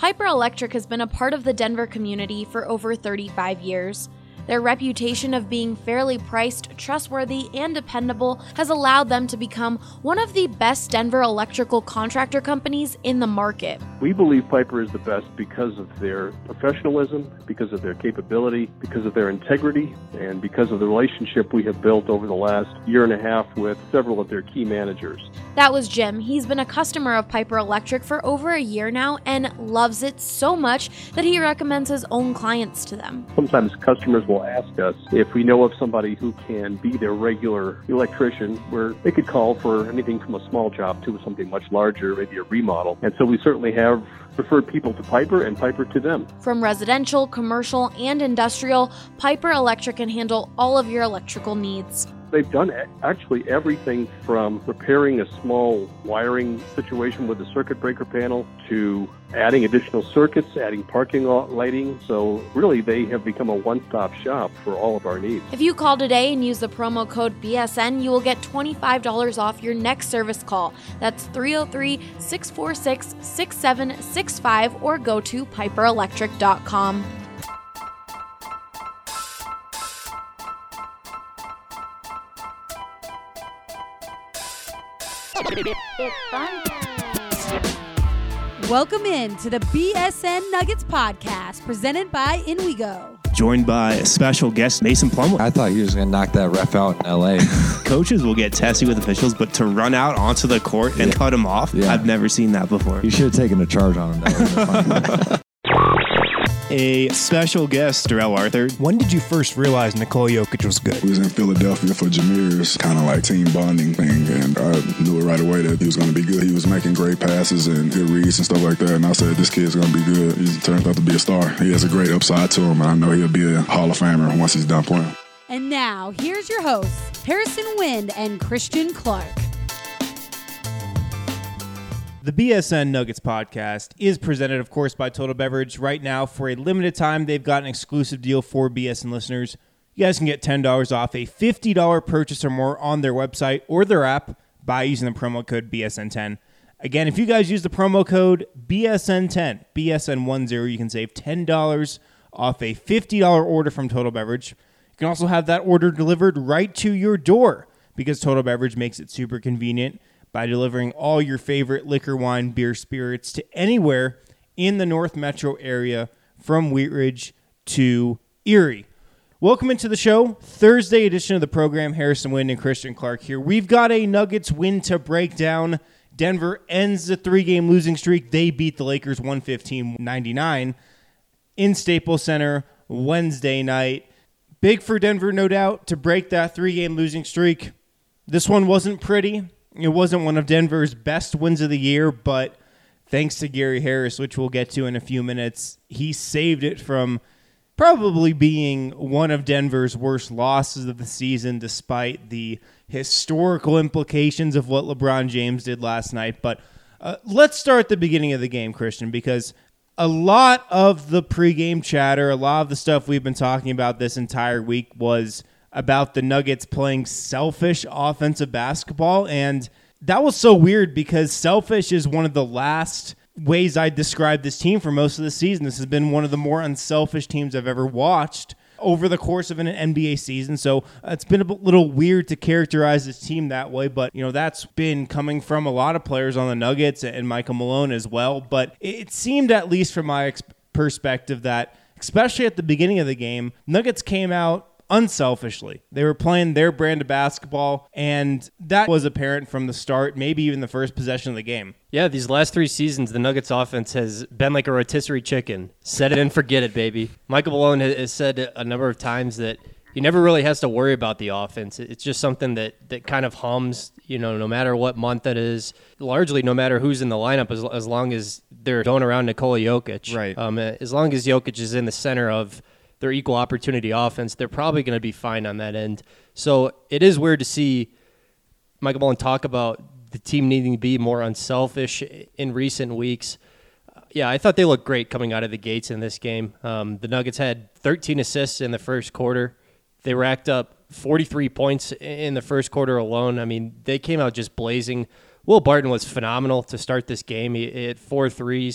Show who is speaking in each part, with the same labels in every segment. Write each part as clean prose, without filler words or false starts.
Speaker 1: Piper Electric has been a part of the Denver community for over 35 years. Their reputation of being fairly priced, trustworthy, and dependable has allowed them to become one of the best Denver electrical contractor companies in the market.
Speaker 2: We believe Piper is the best because of their professionalism, because of their capability, because of their integrity, and because of the relationship we have built over the last year and a half with several of their key managers.
Speaker 1: That was Jim. He's been a customer of Piper Electric for over a year now and loves it so much that he recommends his own clients to them.
Speaker 2: Sometimes customers will ask us if we know of somebody who can be their regular electrician, where they could call for anything from a small job to something much larger, maybe a remodel. And so we certainly have referred people to Piper and Piper to them.
Speaker 1: From residential, commercial, and industrial, Piper Electric can handle all of your electrical needs.
Speaker 2: They've done actually everything from repairing a small wiring situation with a circuit breaker panel to adding additional circuits, adding parking lot lighting. So really, they have become a one-stop shop for all of our needs.
Speaker 1: If you call today and use the promo code BSN, you will get $25 off your next service call. That's 303-646-6765 or go to piperelectric.com.
Speaker 3: It's fun time.
Speaker 4: Welcome in to the BSN Nuggets podcast presented by InWeGo.
Speaker 5: Joined by special guest Mason Plumlee.
Speaker 6: I thought he was going to knock that ref out in L.A.
Speaker 5: Coaches will get testy with officials, but to run out onto the court and cut him off, I've never seen that before.
Speaker 6: You should have taken a charge on him. That
Speaker 5: A special guest, Darrell Arthur.
Speaker 7: When did you first realize Nikola Jokic was good?
Speaker 8: We was in Philadelphia for Jameer's kind of like team bonding thing, and I knew it right away that he was going to be good. He was making great passes and good reads and stuff like that, and I said, this kid's going to be good. He turned out to be a star. He has a great upside to him, and I know he'll be a Hall of Famer once he's done playing.
Speaker 4: And now, here's your hosts, Harrison Wind and Christian Clark.
Speaker 7: The BSN Nuggets podcast is presented, of course, by Total Beverage. Right now, for a limited time, they've got an exclusive deal for BSN listeners. You guys can get $10 off a $50 purchase or more on their website or their app by using the promo code BSN10. Again, if you guys use the promo code BSN10, BSN10, you can save $10 off a $50 order from Total Beverage. You can also have that order delivered right to your door because Total Beverage makes it super convenient by delivering all your favorite liquor, wine, beer, spirits to anywhere in the North Metro area from Wheat Ridge to Erie. Welcome into the show. Thursday edition of the program. Harrison Wind and Christian Clark here. We've got a Nuggets win to break down. Denver ends the 3-game losing streak. They beat the Lakers 115-99 in Staples Center Wednesday night. Big for Denver, no doubt, to break that 3-game losing streak. This one wasn't pretty. It wasn't one of Denver's best wins of the year, but thanks to Gary Harris, which we'll get to in a few minutes, he saved it from probably being one of Denver's worst losses of the season, despite the historical implications of what LeBron James did last night. But let's start at the beginning of the game, Christian, because a lot of the pregame chatter, a lot of the stuff we've been talking about this entire week was about the Nuggets playing selfish offensive basketball, and that was so weird because selfish is one of the last ways I describe this team for most of the season. This has been one of the more unselfish teams I've ever watched over the course of an NBA season, so it's been a little weird to characterize this team that way, but that's been coming from a lot of players on the Nuggets and Michael Malone as well, but it seemed, at least from my perspective, that especially at the beginning of the game, Nuggets came out unselfishly. They were playing their brand of basketball, and that was apparent from the start, maybe even the first possession of the game.
Speaker 9: Yeah, these last 3 seasons, the Nuggets offense has been like a rotisserie chicken. Set it and forget it, baby. Michael Malone has said a number of times that he never really has to worry about the offense. It's just something that kind of hums, no matter what month it is, largely no matter who's in the lineup, as long as they're going around Nikola Jokic.
Speaker 7: Right.
Speaker 9: As long as Jokic is in the center of their equal opportunity offense, they're probably going to be fine on that end. So it is weird to see Michael Malone talk about the team needing to be more unselfish in recent weeks. Yeah, I thought they looked great coming out of the gates in this game. The Nuggets had 13 assists in the first quarter. They racked up 43 points in the first quarter alone. I mean, they came out just blazing. Will Barton was phenomenal to start this game. He hit 4 threes.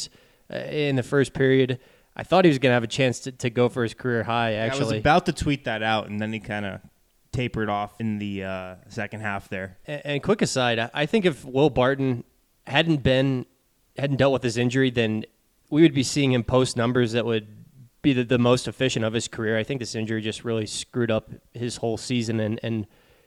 Speaker 9: in the first period. I thought he was going to have a chance to go for his career high, actually.
Speaker 7: I was about to tweet that out, and then he kind of tapered off in the second half there.
Speaker 9: And quick aside, I think if Will Barton hadn't dealt with his injury, then we would be seeing him post numbers that would be the most efficient of his career. I think this injury just really screwed up his whole season and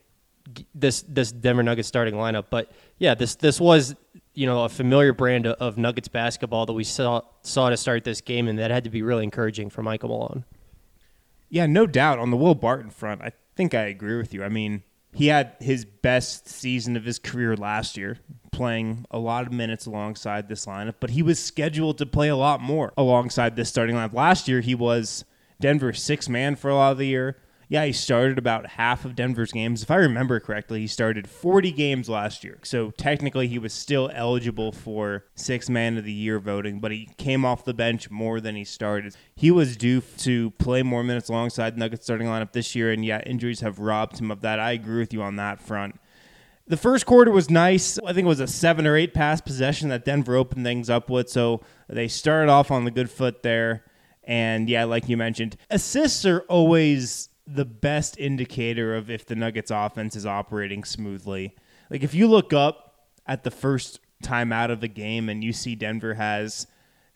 Speaker 9: this Denver Nuggets starting lineup. But yeah, this was, a familiar brand of Nuggets basketball that we saw to start this game, and that had to be really encouraging for Michael Malone.
Speaker 7: Yeah, no doubt. On the Will Barton front, I think I agree with you. I mean, he had his best season of his career last year, playing a lot of minutes alongside this lineup, but he was scheduled to play a lot more alongside this starting lineup. Last year, he was Denver's sixth man for a lot of the year. Yeah, he started about half of Denver's games. If I remember correctly, he started 40 games last year. So technically, he was still eligible for sixth man of the year voting, but he came off the bench more than he started. He was due to play more minutes alongside the Nuggets starting lineup this year, and yeah, injuries have robbed him of that. I agree with you on that front. The first quarter was nice. I think it was a 7 or 8 pass possession that Denver opened things up with, so they started off on the good foot there. And yeah, like you mentioned, assists are always the best indicator of if the Nuggets offense is operating smoothly. Like if you look up at the first time out of the game and you see Denver has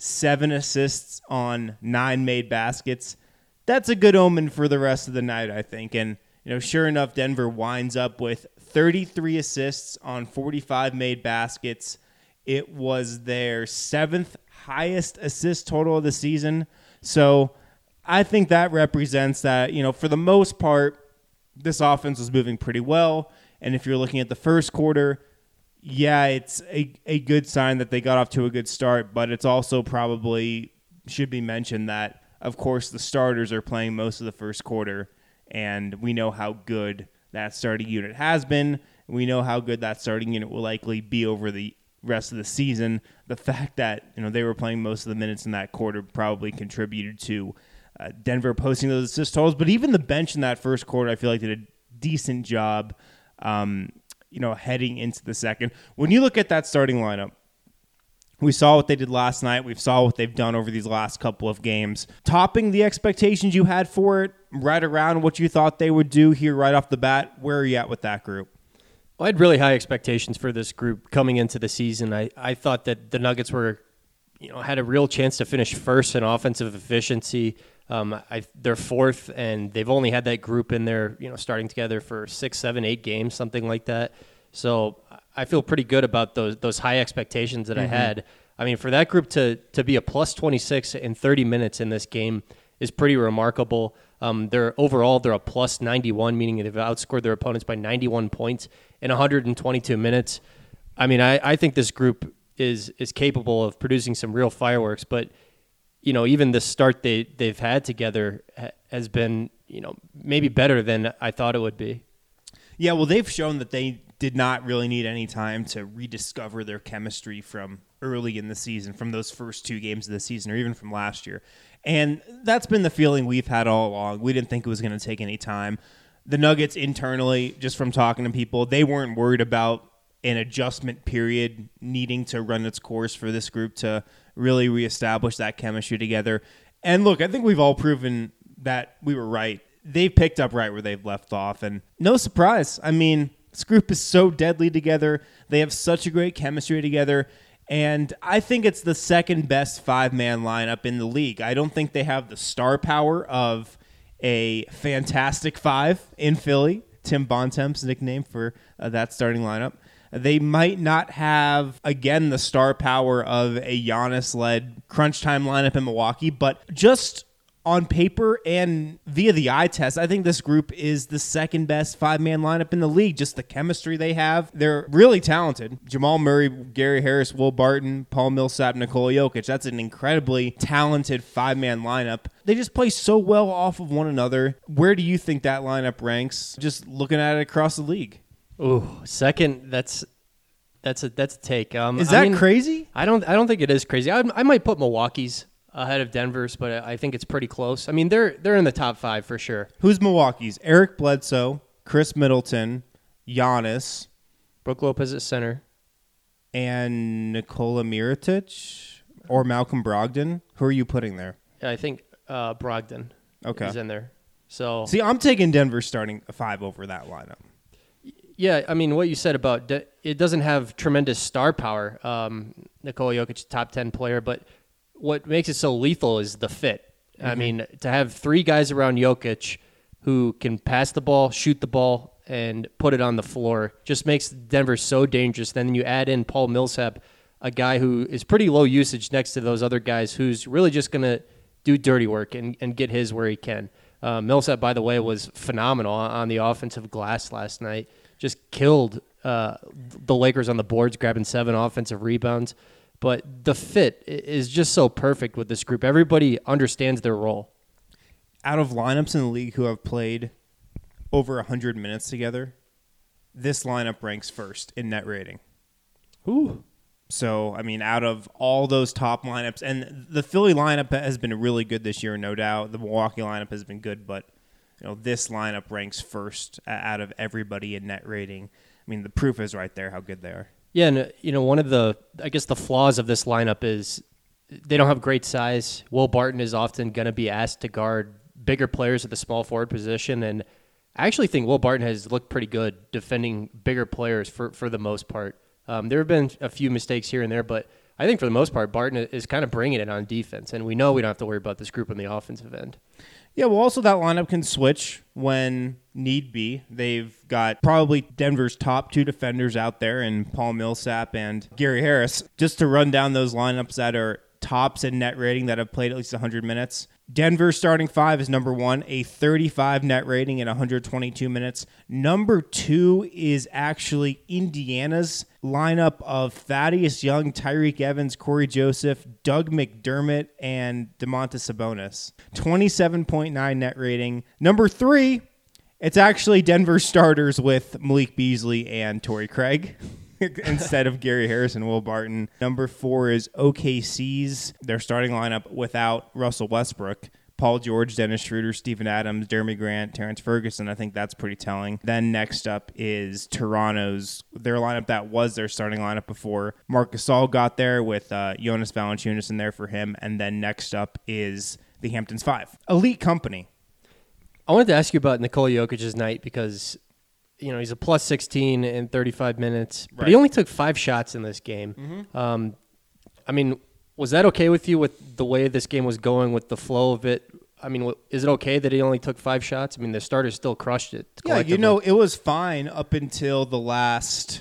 Speaker 7: 7 assists on 9 made baskets, that's a good omen for the rest of the night, I think. And sure enough, Denver winds up with 33 assists on 45 made baskets. It was their 7th highest assist total of the season. So I think that represents that, for the most part, this offense was moving pretty well. And if you're looking at the first quarter, yeah, it's a good sign that they got off to a good start, but it's also probably should be mentioned that, of course, the starters are playing most of the first quarter, and we know how good that starting unit has been. We know how good that starting unit will likely be over the rest of the season. The fact that they were playing most of the minutes in that quarter probably contributed to Denver posting those assist totals, but even the bench in that first quarter, I feel like did a decent job, heading into the second. When you look at that starting lineup, we saw what they did last night. We saw what they've done over these last couple of games. Topping the expectations you had for it, right around what you thought they would do here right off the bat. Where are you at with that group?
Speaker 9: Well, I had really high expectations for this group coming into the season. I thought that the Nuggets were, had a real chance to finish first in offensive efficiency. They're 4th, and they've only had that group in there, starting together for 6, 7, 8 games, something like that. So I feel pretty good about those high expectations that I had. I mean, for that group to be a plus 26 in 30 minutes in this game is pretty remarkable. They're a plus 91, meaning they've outscored their opponents by 91 points in 122 minutes. I mean, I think this group is capable of producing some real fireworks, but even the start they've had together has been, maybe better than I thought it would be.
Speaker 7: Yeah, well, they've shown that they did not really need any time to rediscover their chemistry from early in the season, from those first 2 games of the season, or even from last year. And that's been the feeling we've had all along. We didn't think it was going to take any time. The Nuggets internally, just from talking to people, they weren't worried about an adjustment period needing to run its course for this group to really reestablish that chemistry together. And look, I think we've all proven that we were right. They've picked up right where they've left off, and no surprise. I mean, this group is so deadly together. They have such a great chemistry together, and I think it's the second best 5-man lineup in the league. I don't think they have the star power of a Fantastic Five in Philly, Tim Bontemps' nickname for that starting lineup. They might not have, again, the star power of a Giannis-led crunch time lineup in Milwaukee, but just on paper and via the eye test, I think this group is the second best 5-man lineup in the league. Just the chemistry they have. They're really talented. Jamal Murray, Gary Harris, Will Barton, Paul Millsap, Nikola Jokic. That's an incredibly talented 5-man lineup. They just play so well off of one another. Where do you think that lineup ranks, just looking at it across the league?
Speaker 9: Ooh, second. That's a take.
Speaker 7: Is that crazy?
Speaker 9: I don't think it is crazy. I might put Milwaukee's ahead of Denver's, but I think it's pretty close. I mean, they're in the top 5 for sure.
Speaker 7: Who's Milwaukee's? Eric Bledsoe, Chris Middleton, Giannis,
Speaker 9: Brook Lopez at center,
Speaker 7: and Nikola Mirotic. or Malcolm Brogdon. Who are you putting there?
Speaker 9: I think Brogdon is in there. So
Speaker 7: see, I'm taking Denver starting a 5 over that lineup.
Speaker 9: Yeah, I mean, what you said about it doesn't have tremendous star power. Nikola Jokic, top 10 player, but what makes it so lethal is the fit. I mean, to have 3 guys around Jokic who can pass the ball, shoot the ball, and put it on the floor just makes Denver so dangerous. Then you add in Paul Millsap, a guy who is pretty low usage next to those other guys, who's really just going to do dirty work and get his where he can. Millsap, by the way, was phenomenal on the offensive glass last night. Just killed the Lakers on the boards, grabbing 7 offensive rebounds. But the fit is just so perfect with this group. Everybody understands their role.
Speaker 7: Out of lineups in the league who have played over 100 minutes together, this lineup ranks first in net rating.
Speaker 9: Ooh.
Speaker 7: So, I mean, out of all those top lineups, and the Philly lineup has been really good this year, no doubt. The Milwaukee lineup has been good, but this lineup ranks first out of everybody in net rating. I mean, the proof is right there how good they are.
Speaker 9: Yeah, and one of the flaws of this lineup is they don't have great size. Will Barton is often going to be asked to guard bigger players at the small forward position, and I actually think Will Barton has looked pretty good defending bigger players for the most part. There have been a few mistakes here and there, but I think for the most part, Barton is kind of bringing it on defense, and we know we don't have to worry about this group on the offensive end.
Speaker 7: Yeah, well, also that lineup can switch when need be. They've got probably Denver's top 2 defenders out there in Paul Millsap and Gary Harris. Just to run down those lineups that are tops in net rating that have played at least 100 minutes. Denver's starting 5 is number 1, a 35 net rating in 122 minutes. Number 2 is actually Indiana's lineup of Thaddeus Young, Tyreek Evans, Corey Joseph, Doug McDermott, and Domantas Sabonis. 27.9 net rating. Number 3, it's actually Denver starters with Malik Beasley and Torrey Craig instead of Gary Harris and Will Barton. Number 4 is OKC's. Their starting lineup without Russell Westbrook. Paul George, Dennis Schroeder, Steven Adams, Jeremy Grant, Terrence Ferguson. I think that's pretty telling. Then next up is Toronto's, their lineup that was their starting lineup before Marc Gasol got there with Jonas Valanciunas in there for him. And then next up is the Hamptons 5. Elite company.
Speaker 9: I wanted to ask you about Nikola Jokic's night because he's a plus 16 in 35 minutes, but he only took 5 shots in this game. I mean, was that okay with you with the way this game was going, with the flow of it? I mean, is it okay that he only took 5 shots? I mean, the starters still crushed it.
Speaker 7: Yeah, it was fine up until the last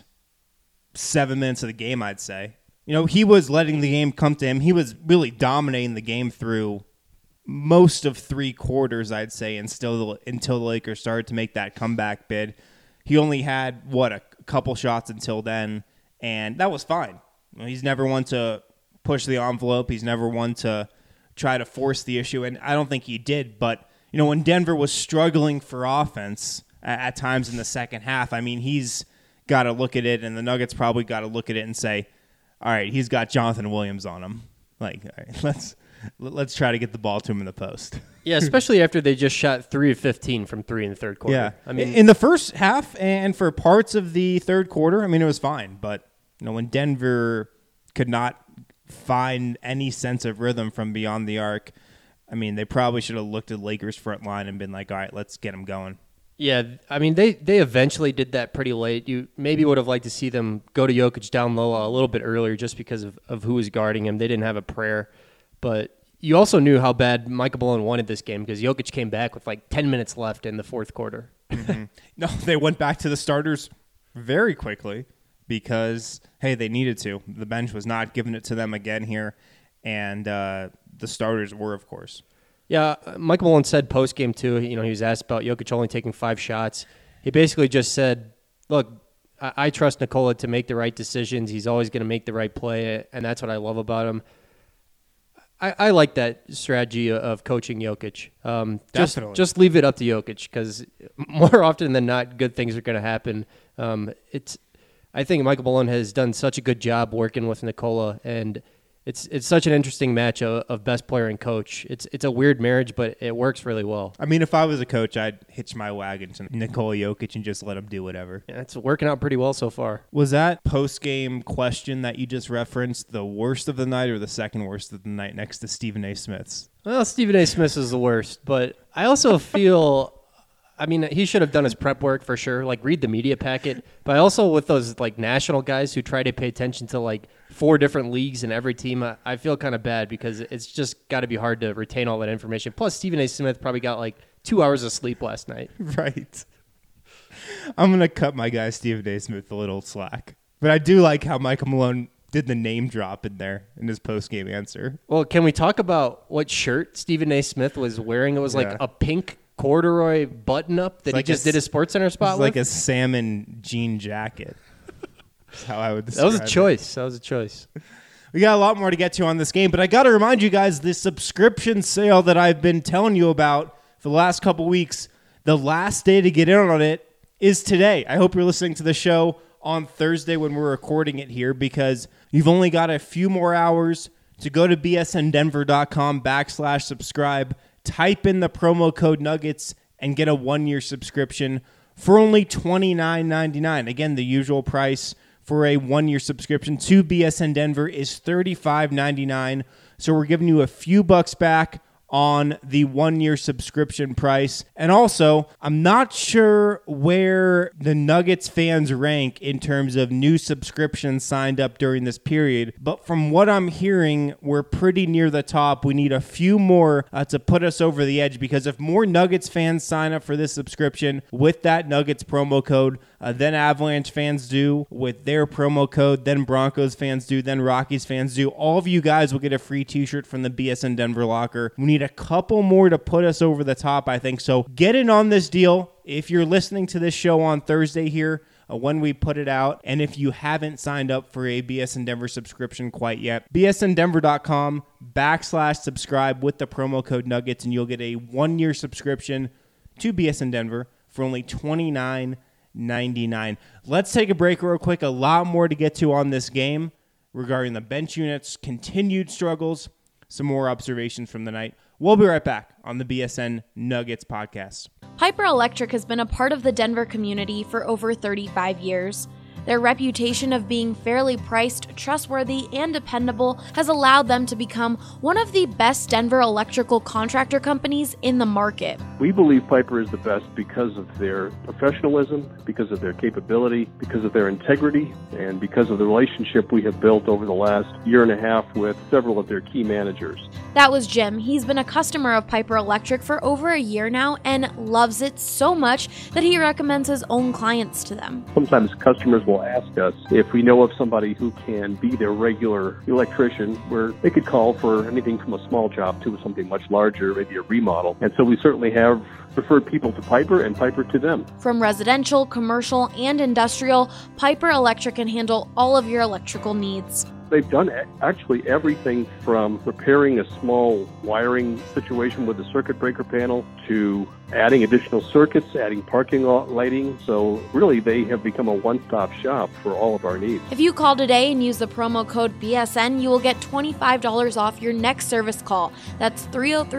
Speaker 7: 7 minutes of the game, I'd say. He was letting the game come to him. He was really dominating the game through most of 3 quarters, I'd say, and still until the Lakers started to make that comeback bid. He only had, a couple shots until then, and that was fine. He's never one to push the envelope. He's never one to try to force the issue, and I don't think he did. But, when Denver was struggling for offense at times in the second half, I mean, he's got to look at it, and the Nuggets probably got to look at it and say, all right, he's got Jonathan Williams on him. Like, all right, let's try to get the ball to him in the post.
Speaker 9: Yeah, especially after they just shot 3 of 15 from 3 in the third quarter.
Speaker 7: Yeah,
Speaker 9: I mean,
Speaker 7: in the first half and for parts of the third quarter, I mean, it was fine. But when Denver could not find any sense of rhythm from beyond the arc, I mean, they probably should have looked at Lakers front line and been like, all right, let's get them going.
Speaker 9: Yeah, I mean, they eventually did that pretty late. You maybe would have liked to see them go to Jokic down low a little bit earlier just because of who was guarding him. They didn't have a prayer. But you also knew how bad Michael Malone wanted this game because Jokic came back with 10 minutes left in the fourth quarter.
Speaker 7: Mm-hmm. No, they went back to the starters very quickly because, hey, they needed to. The bench was not giving it to them again here, and the starters were, of course.
Speaker 9: Yeah, Michael Malone said post-game, too, he was asked about Jokic only taking 5 shots. He basically just said, look, I trust Nikola to make the right decisions. He's always going to make the right play, and that's what I love about him. I like that strategy of coaching Jokic. Just leave it up to Jokic because more often than not, good things are going to happen. I think Michael Malone has done such a good job working with Nikola, and it's such an interesting match of best player and coach. It's a weird marriage, but it works really well.
Speaker 7: I mean, if I was a coach, I'd hitch my wagon to Nikola Jokic and just let him do whatever.
Speaker 9: Yeah, it's working out pretty well so far.
Speaker 7: Was that post-game question that you just referenced the worst of the night or the second worst of the night next to Stephen A. Smith's?
Speaker 9: Well, Stephen A. Smith is the worst, but I also feel... I mean, he should have done his prep work for sure, like read the media packet. But also with those like national guys who try to pay attention to like 4 different leagues in every team, I feel kind of bad because it's just got to be hard to retain all that information. Plus, Stephen A. Smith probably got like 2 hours of sleep last night.
Speaker 7: Right. I'm going to cut my guy Stephen A. Smith a little slack. But I do like how Michael Malone did the name drop in there in his post-game answer.
Speaker 9: Well, can we talk about what shirt Stephen A. Smith was wearing? It was like a pink corduroy button-up that he just did a SportsCenter spot with?
Speaker 7: Like a salmon jean jacket. That's how I would describe
Speaker 9: That was a choice.
Speaker 7: We got a lot more to get to on this game, but I got to remind you guys, this subscription sale that I've been telling you about for the last couple weeks, the last day to get in on it is today. I hope you're listening to the show on Thursday when we're recording it here because you've only got a few more hours to go to bsndenver.com/subscribe. Type in the promo code Nuggets and get a 1-year subscription for only $29.99. Again, the usual price for a 1-year subscription to BSN Denver is $35.99. So we're giving you a few bucks back on the 1-year subscription price. And also, I'm not sure where the Nuggets fans rank in terms of new subscriptions signed up during this period, but from what I'm hearing, we're pretty near the top. We need a few more to put us over the edge, because if more Nuggets fans sign up for this subscription with that Nuggets promo code, then Avalanche fans do with their promo code, then Broncos fans do, then Rockies fans do. All of you guys will get a free t-shirt from the BSN Denver locker. We need a couple more to put us over the top, I think. So get in on this deal. If you're listening to this show on Thursday here, when we put it out, and if you haven't signed up for a BSN Denver subscription quite yet, bsndenver.com/subscribe with the promo code Nuggets, and you'll get a 1-year subscription to BSN Denver for only $29.99. Let's take a break real quick. A lot more to get to on this game regarding the bench units, continued struggles, some more observations from the night. We'll be right back on the BSN Nuggets podcast.
Speaker 1: Piper Electric has been a part of the Denver community for over 35 years. Their reputation of being fairly priced, trustworthy, and dependable has allowed them to become one of the best Denver electrical contractor companies in the market.
Speaker 2: We believe Piper is the best because of their professionalism, because of their capability, because of their integrity, and because of the relationship we have built over the last year and a half with several of their key managers.
Speaker 1: That was Jim. He's been a customer of Piper Electric for over a year now and loves it so much that he recommends his own clients to them.
Speaker 2: Sometimes customers will ask us if we know of somebody who can be their regular electrician, where they could call for anything from a small job to something much larger, maybe a remodel. And so we certainly have referred people to Piper and Piper to them.
Speaker 1: From residential, commercial, and industrial, Piper Electric can handle all of your electrical needs.
Speaker 2: They've done actually everything from repairing a small wiring situation with a circuit breaker panel to adding additional circuits, adding parking lot lighting. So really, they have become a one-stop shop for all of our needs.
Speaker 1: If you call today and use the promo code BSN, you will get $25 off your next service call. That's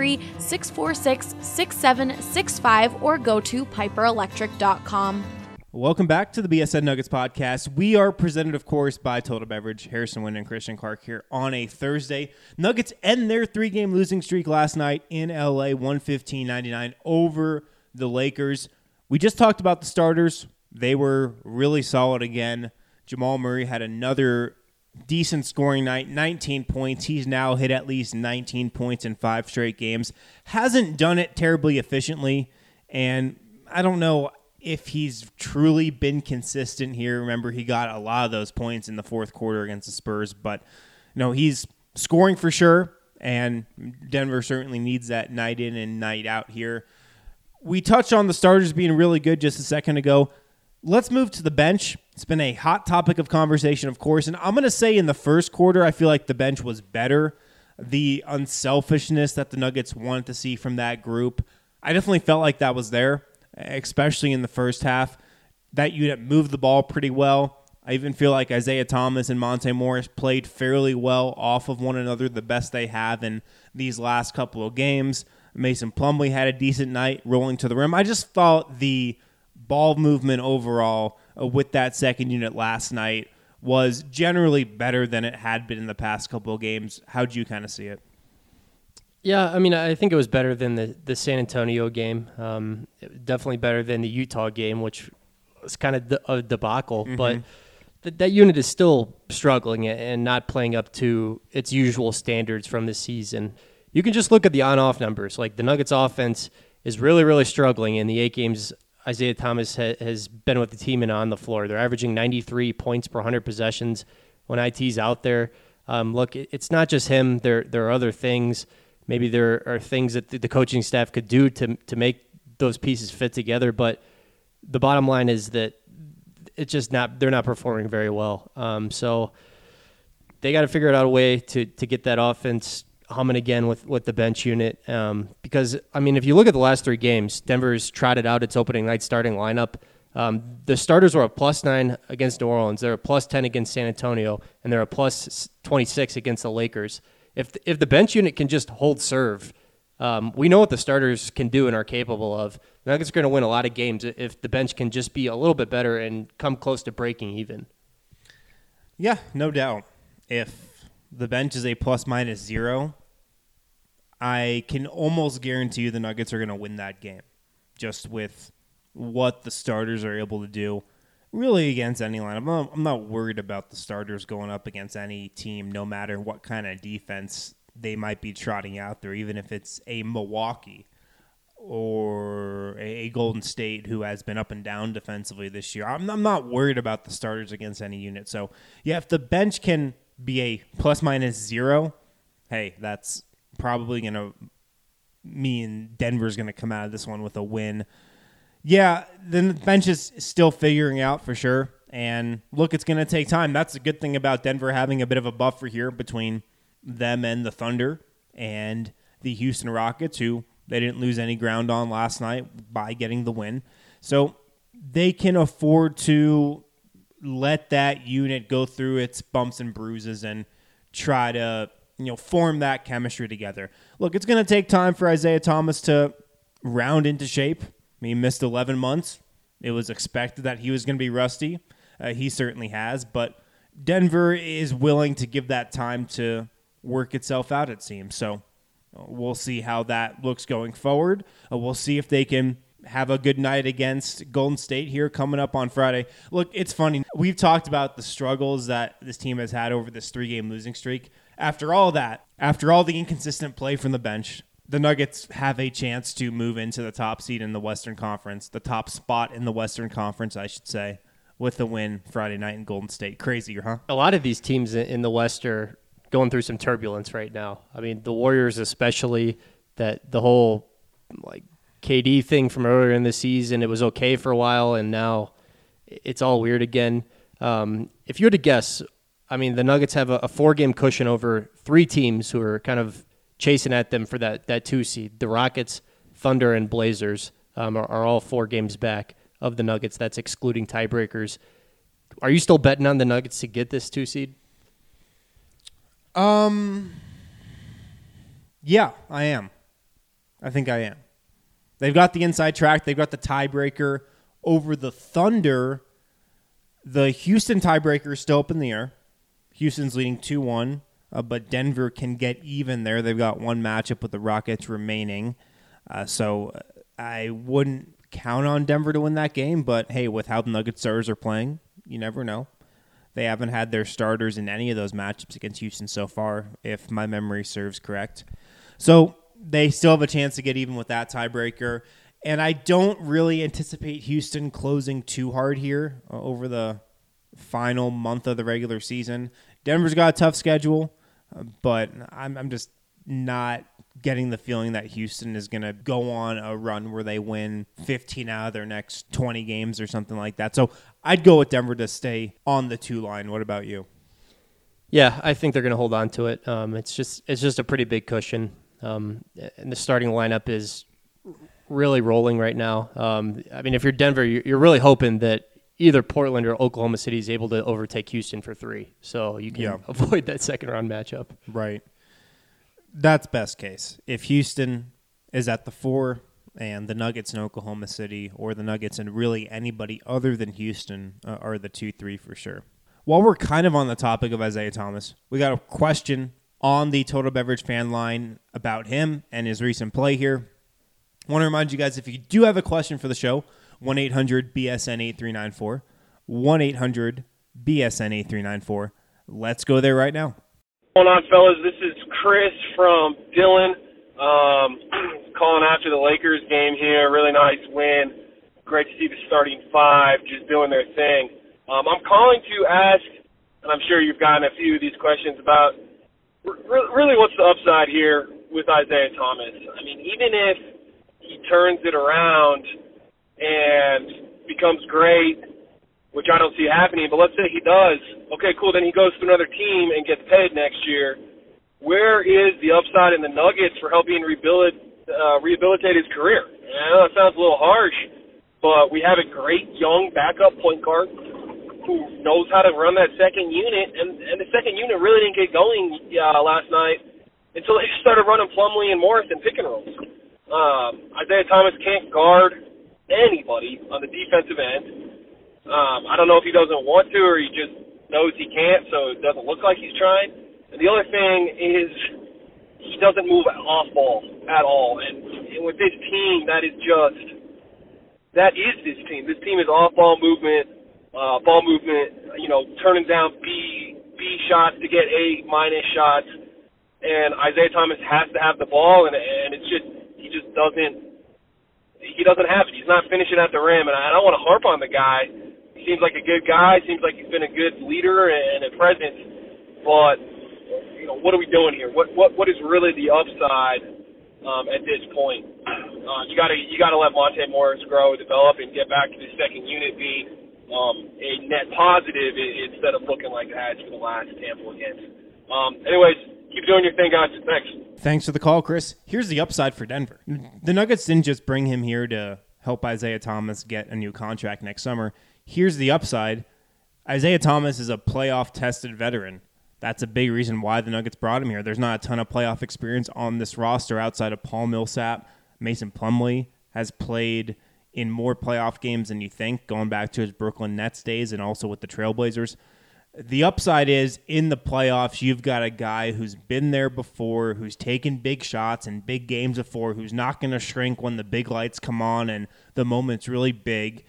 Speaker 1: 303-646-6765 or go to piperelectric.com.
Speaker 7: Welcome back to the BSN Nuggets podcast. We are presented, of course, by Total Beverage. Harrison Wind and Christian Clark here on a Thursday. Nuggets end their 3-game losing streak last night in LA, 115-99 over the Lakers. We just talked about the starters. They were really solid again. Jamal Murray had another decent scoring night, 19 points. He's now hit at least 19 points in 5 straight games. Hasn't done it terribly efficiently, and I don't know if he's truly been consistent here. Remember, he got a lot of those points in the fourth quarter against the Spurs, but he's scoring for sure, and Denver certainly needs that night in and night out here. We touched on the starters being really good just a second ago. Let's move to the bench. It's been a hot topic of conversation, of course, and I'm going to say in the first quarter, I feel like the bench was better. The unselfishness that the Nuggets wanted to see from that group, I definitely felt like that was there, especially in the first half. That unit moved the ball pretty well. I even feel like Isaiah Thomas and Monte Morris played fairly well off of one another, the best they have in these last couple of games. Mason Plumlee had a decent night rolling to the rim. I just thought the ball movement overall with that second unit last night was generally better than it had been in the past couple of games. How'd you kind of see it?
Speaker 9: Yeah, I mean, I think it was better than the San Antonio game. Definitely better than the Utah game, which was kind of a debacle. Mm-hmm. But that unit is still struggling and not playing up to its usual standards from this season. You can just look at the on-off numbers. Like the Nuggets offense is really, really struggling in the 8 games Isaiah Thomas has been with the team and on the floor. They're averaging 93 points per 100 possessions when IT's out there. Look, it's not just him. There are other things. Maybe there are things that the coaching staff could do to make those pieces fit together. But the bottom line is that it's just they're not performing very well. So they got to figure out a way to get that offense humming again with the bench unit. Because, I mean, if you look at the last 3 games, Denver's trotted out its opening night starting lineup. The starters were a +9 against New Orleans. They're a +10 against San Antonio, and they're a +26 against the Lakers. If the bench unit can just hold serve, we know what the starters can do and are capable of. The Nuggets are going to win a lot of games if the bench can just be a little bit better and come close to breaking even.
Speaker 7: Yeah, no doubt. If the bench is a ±0, I can almost guarantee you the Nuggets are going to win that game, just with what the starters are able to do really against any lineup. I'm not worried about the starters going up against any team, no matter what kind of defense they might be trotting out there, even if it's a Milwaukee or a Golden State who has been up and down defensively this year. I'm not worried about the starters against any unit. So, yeah, if the bench can be a ±0, hey, that's probably going to mean Denver's going to come out of this one with a win. Yeah, then the bench is still figuring out for sure. And look, it's going to take time. That's a good thing about Denver having a bit of a buffer here between them and the Thunder and the Houston Rockets, who they didn't lose any ground on last night by getting the win. So they can afford to let that unit go through its bumps and bruises and try to, form that chemistry together. Look, it's going to take time for Isaiah Thomas to round into shape. He missed 11 months. It was expected that he was going to be rusty. He certainly has, but Denver is willing to give that time to work itself out, it seems. So we'll see how that looks going forward. We'll see if they can have a good night against Golden State here coming up on Friday. Look, it's funny. We've talked about the struggles that this team has had over this 3-game losing streak. After all that, after all the inconsistent play from the bench, the Nuggets have a chance to move into the top seed in the Western Conference, the top spot in the Western Conference, I should say, with the win Friday night in Golden State. Crazy, huh?
Speaker 9: A lot of these teams in the West are going through some turbulence right now. I mean, the Warriors especially, that the whole KD thing from earlier in the season, it was okay for a while, and now it's all weird again. If you were to guess, I mean, the Nuggets have a 4-game cushion over 3 teams who are kind of chasing at them for that 2 seed. The Rockets, Thunder, and Blazers are all 4 games back of the Nuggets. That's excluding tiebreakers. Are you still betting on the Nuggets to get this 2 seed?
Speaker 7: Yeah, I am. I think I am. They've got the inside track. They've got the tiebreaker over the Thunder. The Houston tiebreaker is still up in the air. Houston's leading 2-1, but Denver can get even there. They've got 1 matchup with the Rockets remaining. So I wouldn't count on Denver to win that game, but hey, with how the Nuggets starters are playing, you never know. They haven't had their starters in any of those matchups against Houston so far, if my memory serves correct. So they still have a chance to get even with that tiebreaker. And I don't really anticipate Houston closing too hard here over the final month of the regular season. Denver's got a tough schedule, but I'm just not getting the feeling that Houston is going to go on a run where they win 15 out of their next 20 games or something like that. So I'd go with Denver to stay on the 2 line. What about you?
Speaker 9: Yeah, I think they're going to hold on to it. It's just a pretty big cushion. And the starting lineup is really rolling right now. I mean, if you're Denver, you're really hoping that either Portland or Oklahoma City is able to overtake Houston for 3. So you can avoid that second-round matchup.
Speaker 7: Right. That's best case. If Houston is at the 4 and the Nuggets in Oklahoma City, or the Nuggets and really anybody other than Houston are the 2-3 for sure. While we're kind of on the topic of Isaiah Thomas, we got a question on the Total Beverage fan line about him and his recent play here. I want to remind you guys, if you do have a question for the show, 1-800-BSN-8394, 1-800-BSN-8394. Let's go there right now.
Speaker 10: What's going on, fellas? This is Chris from Dillon, calling after the Lakers game here. Really nice win. Great to see the starting 5 just doing their thing. I'm calling to ask, and I'm sure you've gotten a few of these questions about, really what's the upside here with Isaiah Thomas? I mean, even if he turns it around and becomes great, which I don't see happening, but let's say he does. Okay, cool, then he goes to another team and gets paid next year. Where is the upside in the Nuggets for helping rehabilitate his career? I know that sounds a little harsh, but we have a great young backup point guard who knows how to run that second unit, and the second unit really didn't get going last night until they started running Plumlee and Morrison pick and rolls. Isaiah Thomas can't guard anybody on the defensive end. I don't know if he doesn't want to or he just knows he can't, so it doesn't look like he's trying. And the other thing is he doesn't move off ball at all. And with this team, that is this team. This team is off ball movement, turning down B shots to get A- shots. And Isaiah Thomas has to have the ball, and he doesn't have it. He's not finishing at the rim, and I don't want to harp on the guy. He seems like a good guy. Seems like he's been a good leader and a presence. But what are we doing here? What is really the upside at this point? You got to let Monte Morris grow, develop, and get back to the second unit being a net positive instead of looking like it has for the last handful of games. Anyways, keep doing your thing, guys. Thanks.
Speaker 7: Thanks for the call, Chris. Here's the upside for Denver. The Nuggets didn't just bring him here to help Isaiah Thomas get a new contract next summer. Here's the upside. Isaiah Thomas is a playoff-tested veteran. That's a big reason why the Nuggets brought him here. There's not a ton of playoff experience on this roster outside of Paul Millsap. Mason Plumlee has played in more playoff games than you think, going back to his Brooklyn Nets days and also with the Trailblazers. The upside is, in the playoffs, you've got a guy who's been there before, who's taken big shots in big games before, who's not going to shrink when the big lights come on and the moment's really big.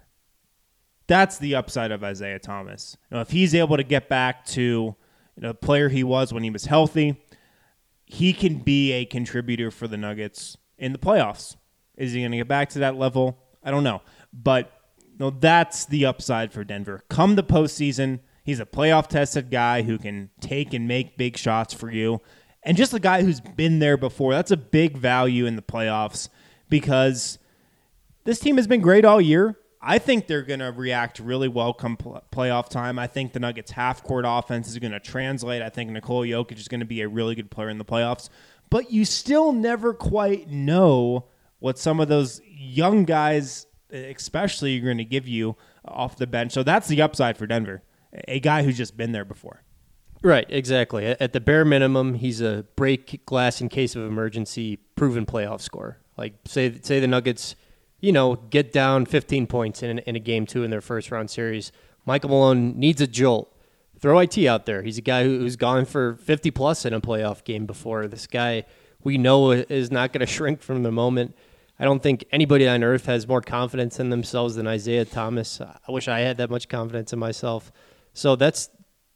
Speaker 7: That's the upside of Isaiah Thomas. If he's able to get back to the player he was when he was healthy, he can be a contributor for the Nuggets in the playoffs. Is he going to get back to that level? I don't know. But that's the upside for Denver. Come the postseason, he's a playoff-tested guy who can take and make big shots for you. And just a guy who's been there before. That's a big value in the playoffs because this team has been great all year. I think they're going to react really well come playoff time. I think the Nuggets' half-court offense is going to translate. I think Nikola Jokic is going to be a really good player in the playoffs. But you still never quite know what some of those young guys especially are going to give you off the bench. So that's the upside for Denver, a guy who's just been there before.
Speaker 9: Right, exactly. At the bare minimum, he's a break glass in case of emergency proven playoff scorer. Like, say the Nuggets get down 15 points in a game 2 in their first-round series. Michael Malone needs a jolt. Throw IT out there. He's a guy who's gone for 50-plus in a playoff game before. This guy we know is not going to shrink from the moment. I don't think anybody on earth has more confidence in themselves than Isaiah Thomas. I wish I had that much confidence in myself. So that's,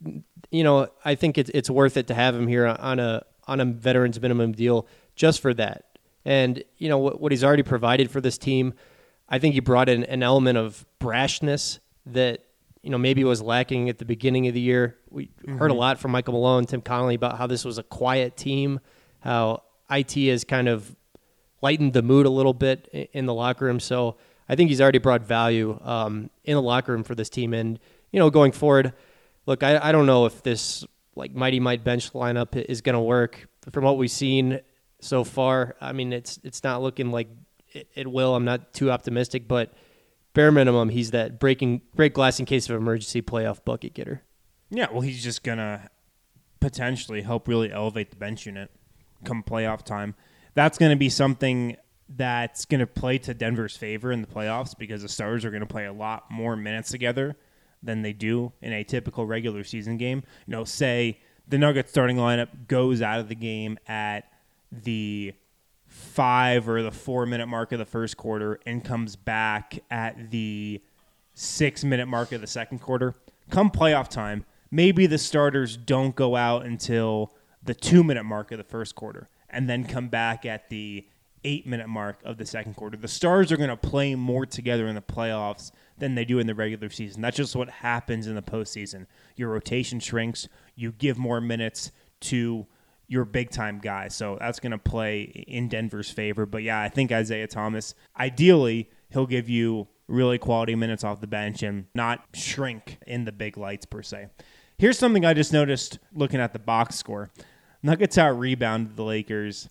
Speaker 9: I think it's worth it to have him here on a veterans minimum deal just for that. And, what he's already provided for this team, I think he brought in an element of brashness that, maybe was lacking at the beginning of the year. We heard a lot from Michael Malone, Tim Connolly about how this was a quiet team, how IT has kind of lightened the mood a little bit in the locker room. So I think he's already brought value in the locker room for this team. And, going forward, look, I don't know if this Mighty Might bench lineup is going to work. From what we've seen so far, I mean, it's not looking like it will. I'm not too optimistic, but bare minimum, he's that break glass in case of emergency playoff bucket getter.
Speaker 7: Yeah, well, he's just going to potentially help really elevate the bench unit come playoff time. That's going to be something that's going to play to Denver's favor in the playoffs because the Stars are going to play a lot more minutes together than they do in a typical regular season game. Say the Nuggets starting lineup goes out of the game at the 5 or the 4 minute mark of the first quarter and comes back at the 6 minute mark of the second quarter. Come playoff time, maybe the starters don't go out until the 2 minute mark of the first quarter and then come back at the 8 minute mark of the second quarter. The Stars are going to play more together in the playoffs than they do in the regular season. That's just what happens in the postseason. Your rotation shrinks. You give more minutes to your big-time guys. So that's going to play in Denver's favor. But, yeah, I think Isaiah Thomas, ideally, he'll give you really quality minutes off the bench and not shrink in the big lights per se. Here's something I just noticed looking at the box score. Nuggets out-rebounded the Lakers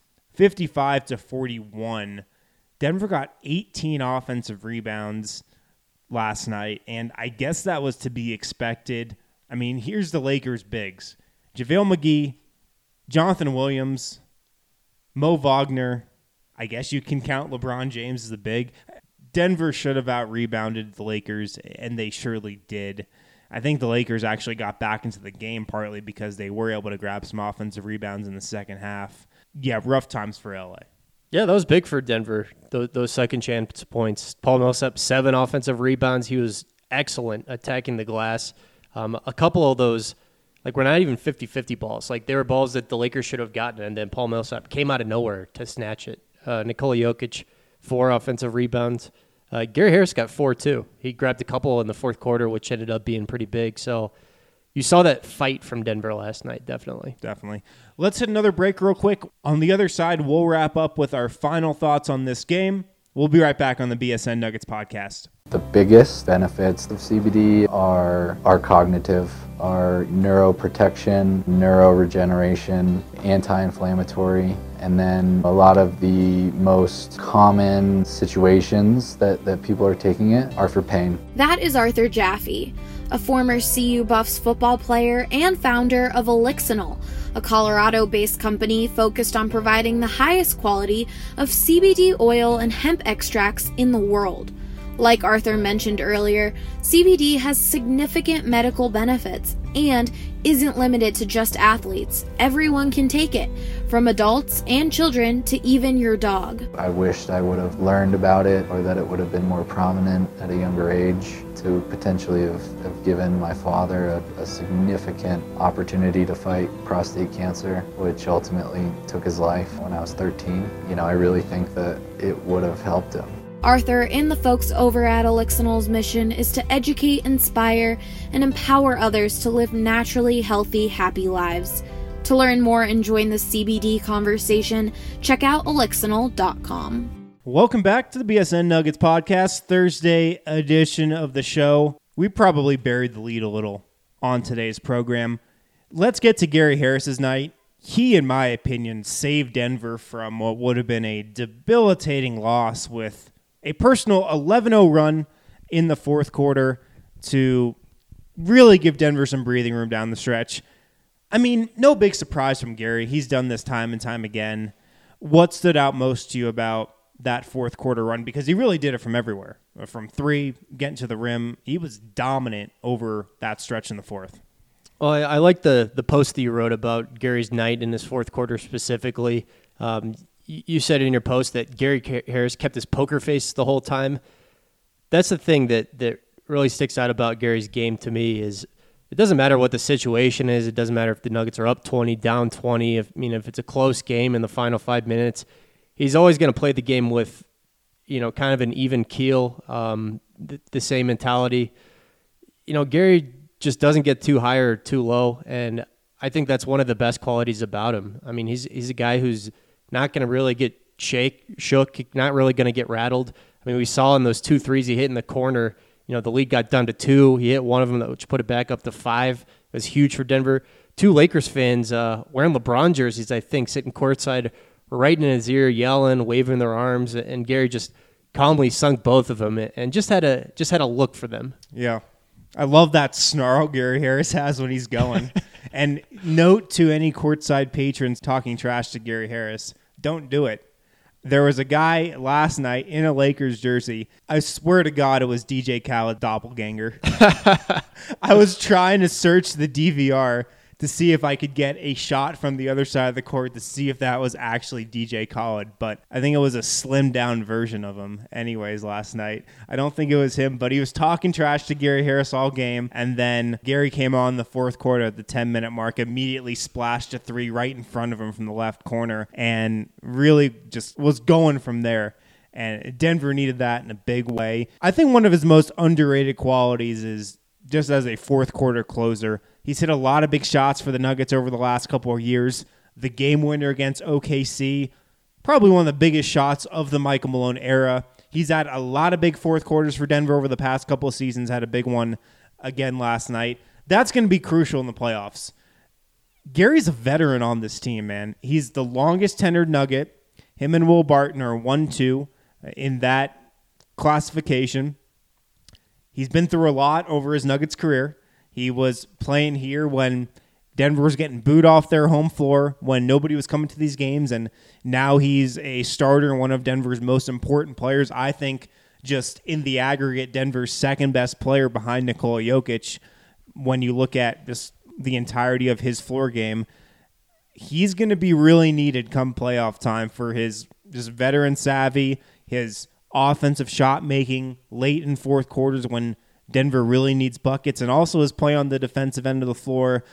Speaker 7: 55-41. Denver got 18 offensive rebounds last night, and I guess that was to be expected. I mean, here's the Lakers' bigs. JaVale McGee, Jonathan Williams, Mo Wagner. I guess you can count LeBron James as the big. Denver should have out-rebounded the Lakers, and they surely did. I think the Lakers actually got back into the game partly because they were able to grab some offensive rebounds in the second half. Yeah, rough times for LA.
Speaker 9: Yeah, that was big for Denver, those second chance points. Paul Millsap, 7 offensive rebounds. He was excellent attacking the glass. A couple of those, were not even 50-50 balls. They were balls that the Lakers should have gotten, and then Paul Millsap came out of nowhere to snatch it. Nikola Jokic, 4 offensive rebounds. Gary Harris got 4, too. He grabbed a couple in the fourth quarter, which ended up being pretty big. So you saw that fight from Denver last night, definitely.
Speaker 7: Definitely. Let's hit another break real quick. On the other side, we'll wrap up with our final thoughts on this game. We'll be right back on the BSN Nuggets podcast.
Speaker 11: The biggest benefits of CBD are cognitive, are neuroprotection, neuroregeneration, anti-inflammatory, and then a lot of the most common situations that people are taking it are for pain.
Speaker 1: That is Arthur Jaffe, a former CU Buffs football player and founder of Elixinol, a Colorado-based company focused on providing the highest quality of CBD oil and hemp extracts in the world. Like Arthur mentioned earlier, CBD has significant medical benefits and isn't limited to just athletes. Everyone can take it, from adults and children to even your dog.
Speaker 11: I wished I would have learned about it, or that it would have been more prominent at a younger age to potentially have given my father a significant opportunity to fight prostate cancer, which ultimately took his life when I was 13. I really think that it would have helped him.
Speaker 1: Arthur and the folks over at Elixinol's mission is to educate, inspire, and empower others to live naturally healthy, happy lives. To learn more and join the CBD conversation, check out Elixinol.com.
Speaker 7: Welcome back to the BSN Nuggets podcast, Thursday edition of the show. We probably buried the lead a little on today's program. Let's get to Gary Harris's night. He, in my opinion, saved Denver from what would have been a debilitating loss with a personal 11-0 run in the fourth quarter to really give Denver some breathing room down the stretch. I mean, no big surprise from Gary. He's done this time and time again. What stood out most to you about that fourth quarter run? Because he really did it from everywhere. From 3, getting to the rim. He was dominant over that stretch in the fourth.
Speaker 9: Well, I like the post that you wrote about Gary's night in this fourth quarter specifically. You said in your post that Gary Harris kept his poker face the whole time. That's the thing that really sticks out about Gary's game to me is it doesn't matter what the situation is. It doesn't matter if the Nuggets are up 20, down 20. If it's a close game in the final 5 minutes, he's always going to play the game with, kind of an even keel, the same mentality. Gary just doesn't get too high or too low, and I think that's one of the best qualities about him. I mean, he's a guy who's not going to really get shook, not really going to get rattled. I mean, we saw in those 2 threes he hit in the corner, the lead got down to 2. He hit one of them, which put it back up to 5. It was huge for Denver. 2 Lakers fans wearing LeBron jerseys, I think, sitting courtside, right in his ear, yelling, waving their arms, and Gary just calmly sunk both of them and just had a look for them.
Speaker 7: Yeah. I love that snarl Gary Harris has when he's going. And note to any courtside patrons talking trash to Gary Harris, don't do it. There was a guy last night in a Lakers jersey. I swear to God it was DJ Khaled doppelganger. I was trying to search the DVR to see if I could get a shot from the other side of the court to see if that was actually DJ Khaled, but I think it was a slimmed down version of him anyways last night. I don't think it was him, but he was talking trash to Gary Harris all game, and then Gary came on the fourth quarter at the 10-minute mark, immediately splashed a three right in front of him from the left corner, and really just was going from there. And Denver needed that in a big way. I think one of his most underrated qualities is just as a fourth quarter closer. He's hit a lot of big shots for the Nuggets over the last couple of years. The game winner against OKC, probably one of the biggest shots of the Michael Malone era. He's had a lot of big fourth quarters for Denver over the past couple of seasons, had a big one again last night. That's going to be crucial in the playoffs. Gary's a veteran on this team, man. He's the longest tenured Nugget. Him and Will Barton are 1-2 in that classification. He's been through a lot over his Nuggets career. He was playing here when Denver was getting booed off their home floor, when nobody was coming to these games, and now he's a starter and one of Denver's most important players. I think just in the aggregate, Denver's second best player behind Nikola Jokic. When you look at just the entirety of his floor game, he's going to be really needed come playoff time for his just veteran savvy, his offensive shot making late in fourth quarters when Denver really needs buckets, and also his play on the defensive end of the floor.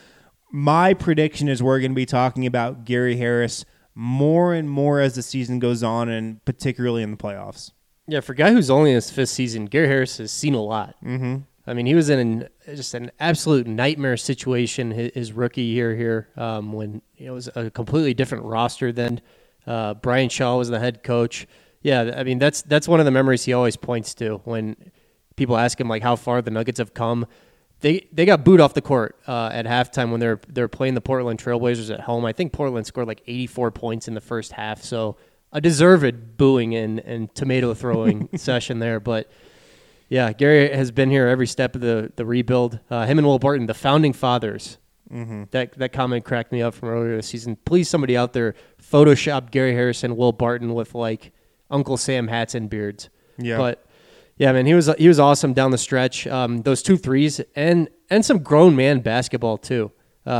Speaker 7: My prediction is we're going to be talking about Gary Harris more and more as the season goes on, and particularly in the playoffs.
Speaker 9: Yeah, for a guy who's only in his fifth season, Gary Harris has seen a lot.
Speaker 7: Mm-hmm.
Speaker 9: I mean, he was in just an absolute nightmare situation his rookie year here when it was a completely different roster then. Brian Shaw was the head coach. Yeah, I mean, that's one of the memories he always points to when people ask him like how far the Nuggets have come. They got booed off the court at halftime when they're playing the Portland Trailblazers at home. I think Portland scored like 84 points in the first half, so a deserved booing and tomato throwing session there. But yeah, Gary has been here every step of the rebuild. Him and Will Barton, the founding fathers. Mm-hmm. That comment cracked me up from earlier this season. Please, somebody out there, Photoshop Gary Harris and Will Barton with like Uncle Sam hats and beards. Yeah, but. Yeah, man, he was awesome down the stretch. Those 2 threes and some grown man basketball too.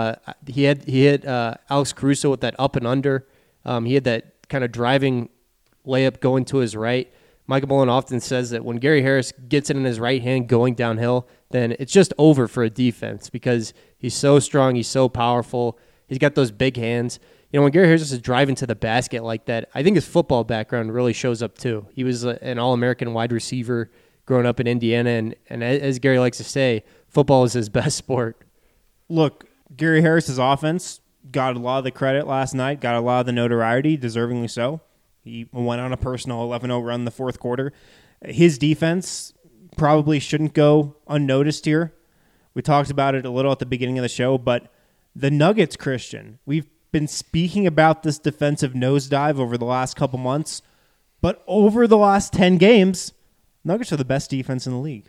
Speaker 9: He hit Alex Caruso with that up and under. He had that kind of driving layup going to his right. Michael Malone often says that when Gary Harris gets it in his right hand going downhill, then it's just over for a defense because he's so strong, he's so powerful, he's got those big hands. You know, when Gary Harris is driving to the basket like that, I think his football background really shows up too. He was an All-American wide receiver growing up in Indiana, and as Gary likes to say, football is his best sport.
Speaker 7: Look, Gary Harris's offense got a lot of the credit last night, got a lot of the notoriety, deservingly so. He went on a personal 11-0 run in the fourth quarter. His defense probably shouldn't go unnoticed here. We talked about it a little at the beginning of the show, but the Nuggets, Christian, we've been speaking about this defensive nosedive over the last couple months, but over the last 10 games, Nuggets are the best defense in the league.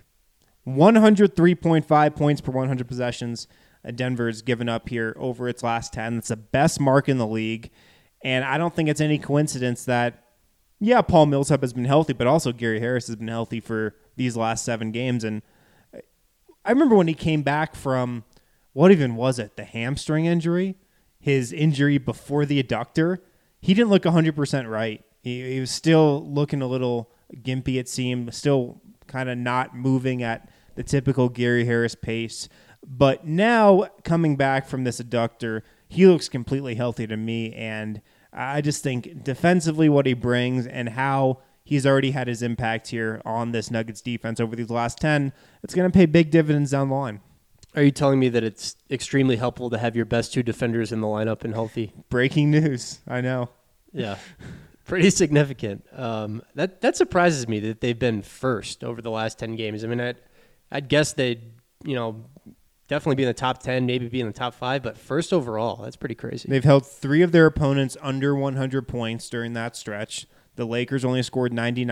Speaker 7: 103.5 points per 100 possessions Denver's given up here over its last 10. That's the best mark in the league, and I don't think it's any coincidence that, yeah, Paul Millsap has been healthy, but also Gary Harris has been healthy for these last 7 games, and I remember when he came back from, what even was it, the hamstring injury? His injury before the adductor, he didn't look 100% right. He was still looking a little gimpy, it seemed, still kind of not moving at the typical Gary Harris pace. But now, coming back from this adductor, he looks completely healthy to me, and I just think defensively what he brings and how he's already had his impact here on this Nuggets defense over these last 10, it's going to pay big dividends down the line.
Speaker 9: Are you telling me that it's extremely helpful to have your best 2 defenders in the lineup and healthy?
Speaker 7: Breaking news. I know.
Speaker 9: Yeah. Pretty significant. That surprises me that they've been first over the last 10 games. I mean, I'd guess they'd, definitely be in the top 10, maybe be in the top 5, but first overall, that's pretty crazy.
Speaker 7: They've held 3 of their opponents under 100 points during that stretch. The Lakers only scored 99.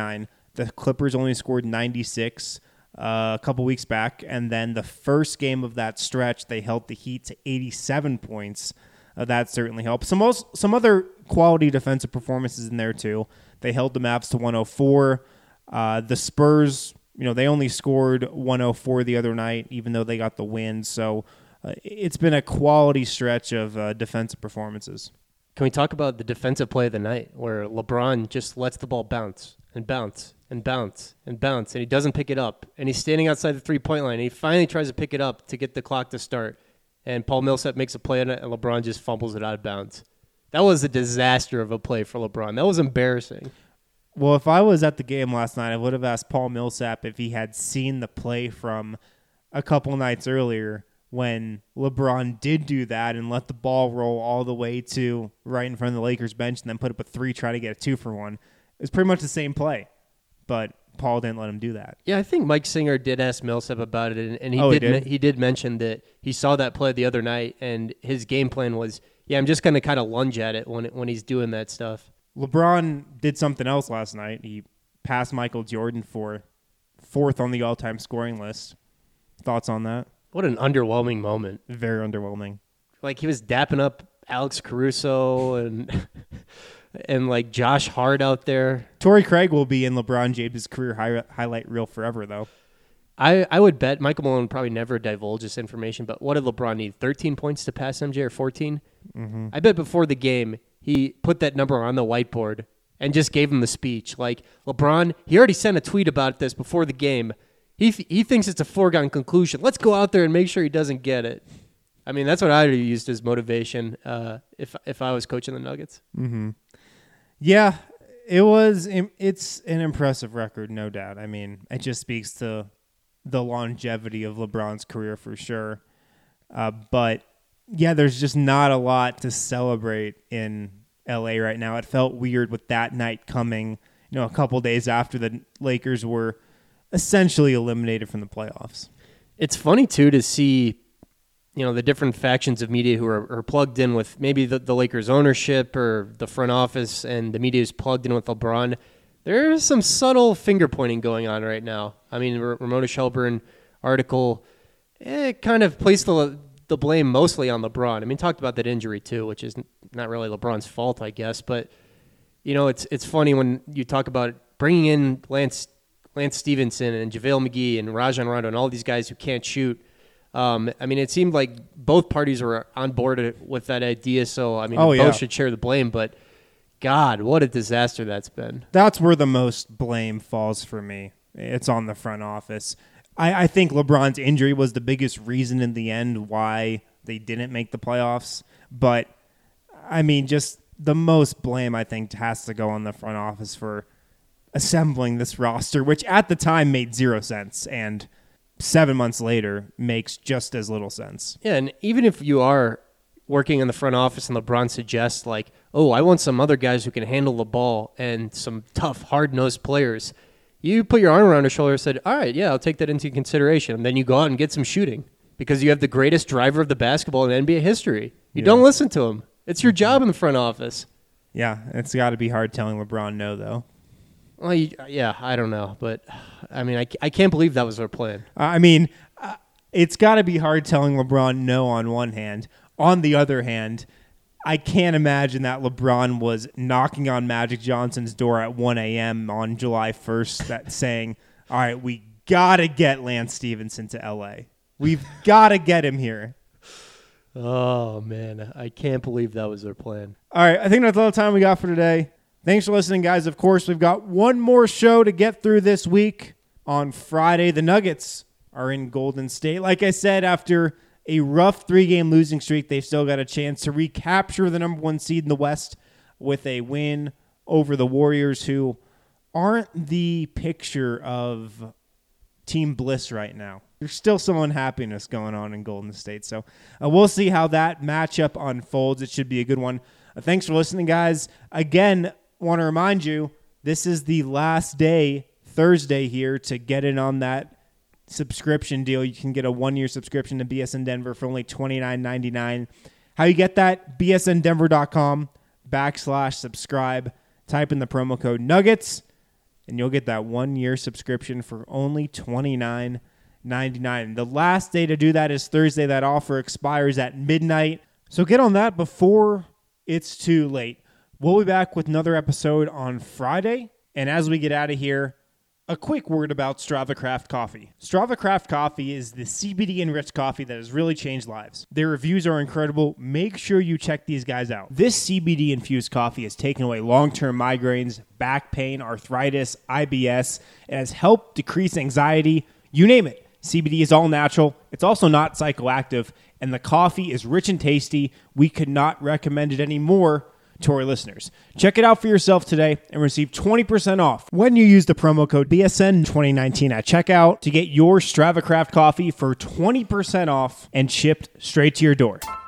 Speaker 7: The Clippers only scored 96 a couple weeks back, and then the first game of that stretch, they held the Heat to 87 points. That certainly helped. Some other quality defensive performances in there too. They held the Mavs to 104. The Spurs, they only scored 104 the other night, even though they got the win. So it's been a quality stretch of defensive performances.
Speaker 9: Can we talk about the defensive play of the night where LeBron just lets the ball bounce and bounce and bounce and bounce, and he doesn't pick it up, and he's standing outside the three-point line, and he finally tries to pick it up to get the clock to start, and Paul Millsap makes a play on it, and LeBron just fumbles it out of bounds. That was a disaster of a play for LeBron. That was embarrassing.
Speaker 7: Well, if I was at the game last night, I would have asked Paul Millsap if he had seen the play from a couple nights earlier when LeBron did do that and let the ball roll all the way to right in front of the Lakers bench and then put up a 3, try to get a 2 for 1. It was pretty much the same play, but Paul didn't let him do that.
Speaker 9: Yeah, I think Mike Singer did ask Millsap about it, and he did mention that he saw that play the other night, and his game plan was, I'm just going to kind of lunge at it when he's doing that stuff.
Speaker 7: LeBron did something else last night. He passed Michael Jordan for 4th on the all-time scoring list. Thoughts on that?
Speaker 9: What an underwhelming moment.
Speaker 7: Very underwhelming.
Speaker 9: Like, he was dapping up Alex Caruso and and like Josh Hart out there.
Speaker 7: Torrey Craig will be in LeBron James' career highlight reel forever, though.
Speaker 9: I would bet Michael Malone probably never divulge this information, but what did LeBron need? 13 points to pass MJ or 14?
Speaker 7: Mm-hmm.
Speaker 9: I bet before the game, he put that number on the whiteboard and just gave him the speech. Like, LeBron, he already sent a tweet about this before the game. He thinks it's a foregone conclusion. Let's go out there and make sure he doesn't get it. I mean, that's what I would have used as motivation if I was coaching the Nuggets.
Speaker 7: Mm-hmm. Yeah, it's an impressive record, no doubt. I mean, it just speaks to the longevity of LeBron's career for sure. But, yeah, there's just not a lot to celebrate in L.A. right now. It felt weird with that night coming, a couple days after the Lakers were essentially eliminated from the playoffs.
Speaker 9: It's funny, too, to see, the different factions of media who are plugged in with maybe the Lakers ownership or the front office, and the media is plugged in with LeBron. There's some subtle finger-pointing going on right now. I mean, Ramona Shelburne article, kind of placed the blame mostly on LeBron. I mean, talked about that injury, too, which is not really LeBron's fault, I guess. But, it's funny when you talk about bringing in Lance Stevenson and JaVale McGee and Rajon Rondo and all these guys who can't shoot. I mean, it seemed like both parties were on board with that idea. So, I mean, both should share the blame. But, God, what a disaster that's been.
Speaker 7: That's where the most blame falls for me. It's on the front office. I think LeBron's injury was the biggest reason in the end why they didn't make the playoffs. But, I mean, just the most blame, I think, has to go on the front office for assembling this roster, which at the time made 0 sense, and 7 months later makes just as little sense.
Speaker 9: Yeah, and even if you are working in the front office and LeBron suggests, like, I want some other guys who can handle the ball and some tough, hard-nosed players, you put your arm around his shoulder and said, all right, yeah, I'll take that into consideration. And then you go out and get some shooting because you have the greatest driver of the basketball in NBA history. You don't listen to him. It's your job in the front office.
Speaker 7: Yeah, it's got to be hard telling LeBron no, though.
Speaker 9: Well, I don't know. But, I mean, I can't believe that was their plan.
Speaker 7: I mean, it's got to be hard telling LeBron no on one hand. On the other hand, I can't imagine that LeBron was knocking on Magic Johnson's door at 1 a.m. on July 1st saying, all right, we got to get Lance Stevenson to L.A. We've got to get him here.
Speaker 9: Oh, man. I can't believe that was their plan.
Speaker 7: All right, I think that's all the time we got for today. Thanks for listening, guys. Of course, we've got one more show to get through this week. On Friday, the Nuggets are in Golden State. Like I said, after a rough 3-game losing streak, they've still got a chance to recapture the number 1 seed in the West with a win over the Warriors, who aren't the picture of team bliss right now. There's still some unhappiness going on in Golden State. So we'll see how that matchup unfolds. It should be a good one. Thanks for listening, guys. Again, want to remind you, this is the last day, Thursday here, to get in on that subscription deal. You can get a 1-year subscription to BSN Denver for only $29.99. How you get that? BSNDenver.com/subscribe. Type in the promo code Nuggets. and you'll get that 1-year subscription for only $29.99. The last day to do that is Thursday. That offer expires at midnight. So get on that before it's too late. We'll be back with another episode on Friday. And as we get out of here, a quick word about Strava Craft Coffee. Strava Craft Coffee is the CBD-enriched coffee that has really changed lives. Their reviews are incredible. Make sure you check these guys out. This CBD-infused coffee has taken away long-term migraines, back pain, arthritis, IBS. It has helped decrease anxiety. You name it. CBD is all natural. It's also not psychoactive. And the coffee is rich and tasty. We could not recommend it anymore to our listeners. Check it out for yourself today and receive 20% off when you use the promo code BSN2019 at checkout to get your Strava Craft coffee for 20% off and shipped straight to your door.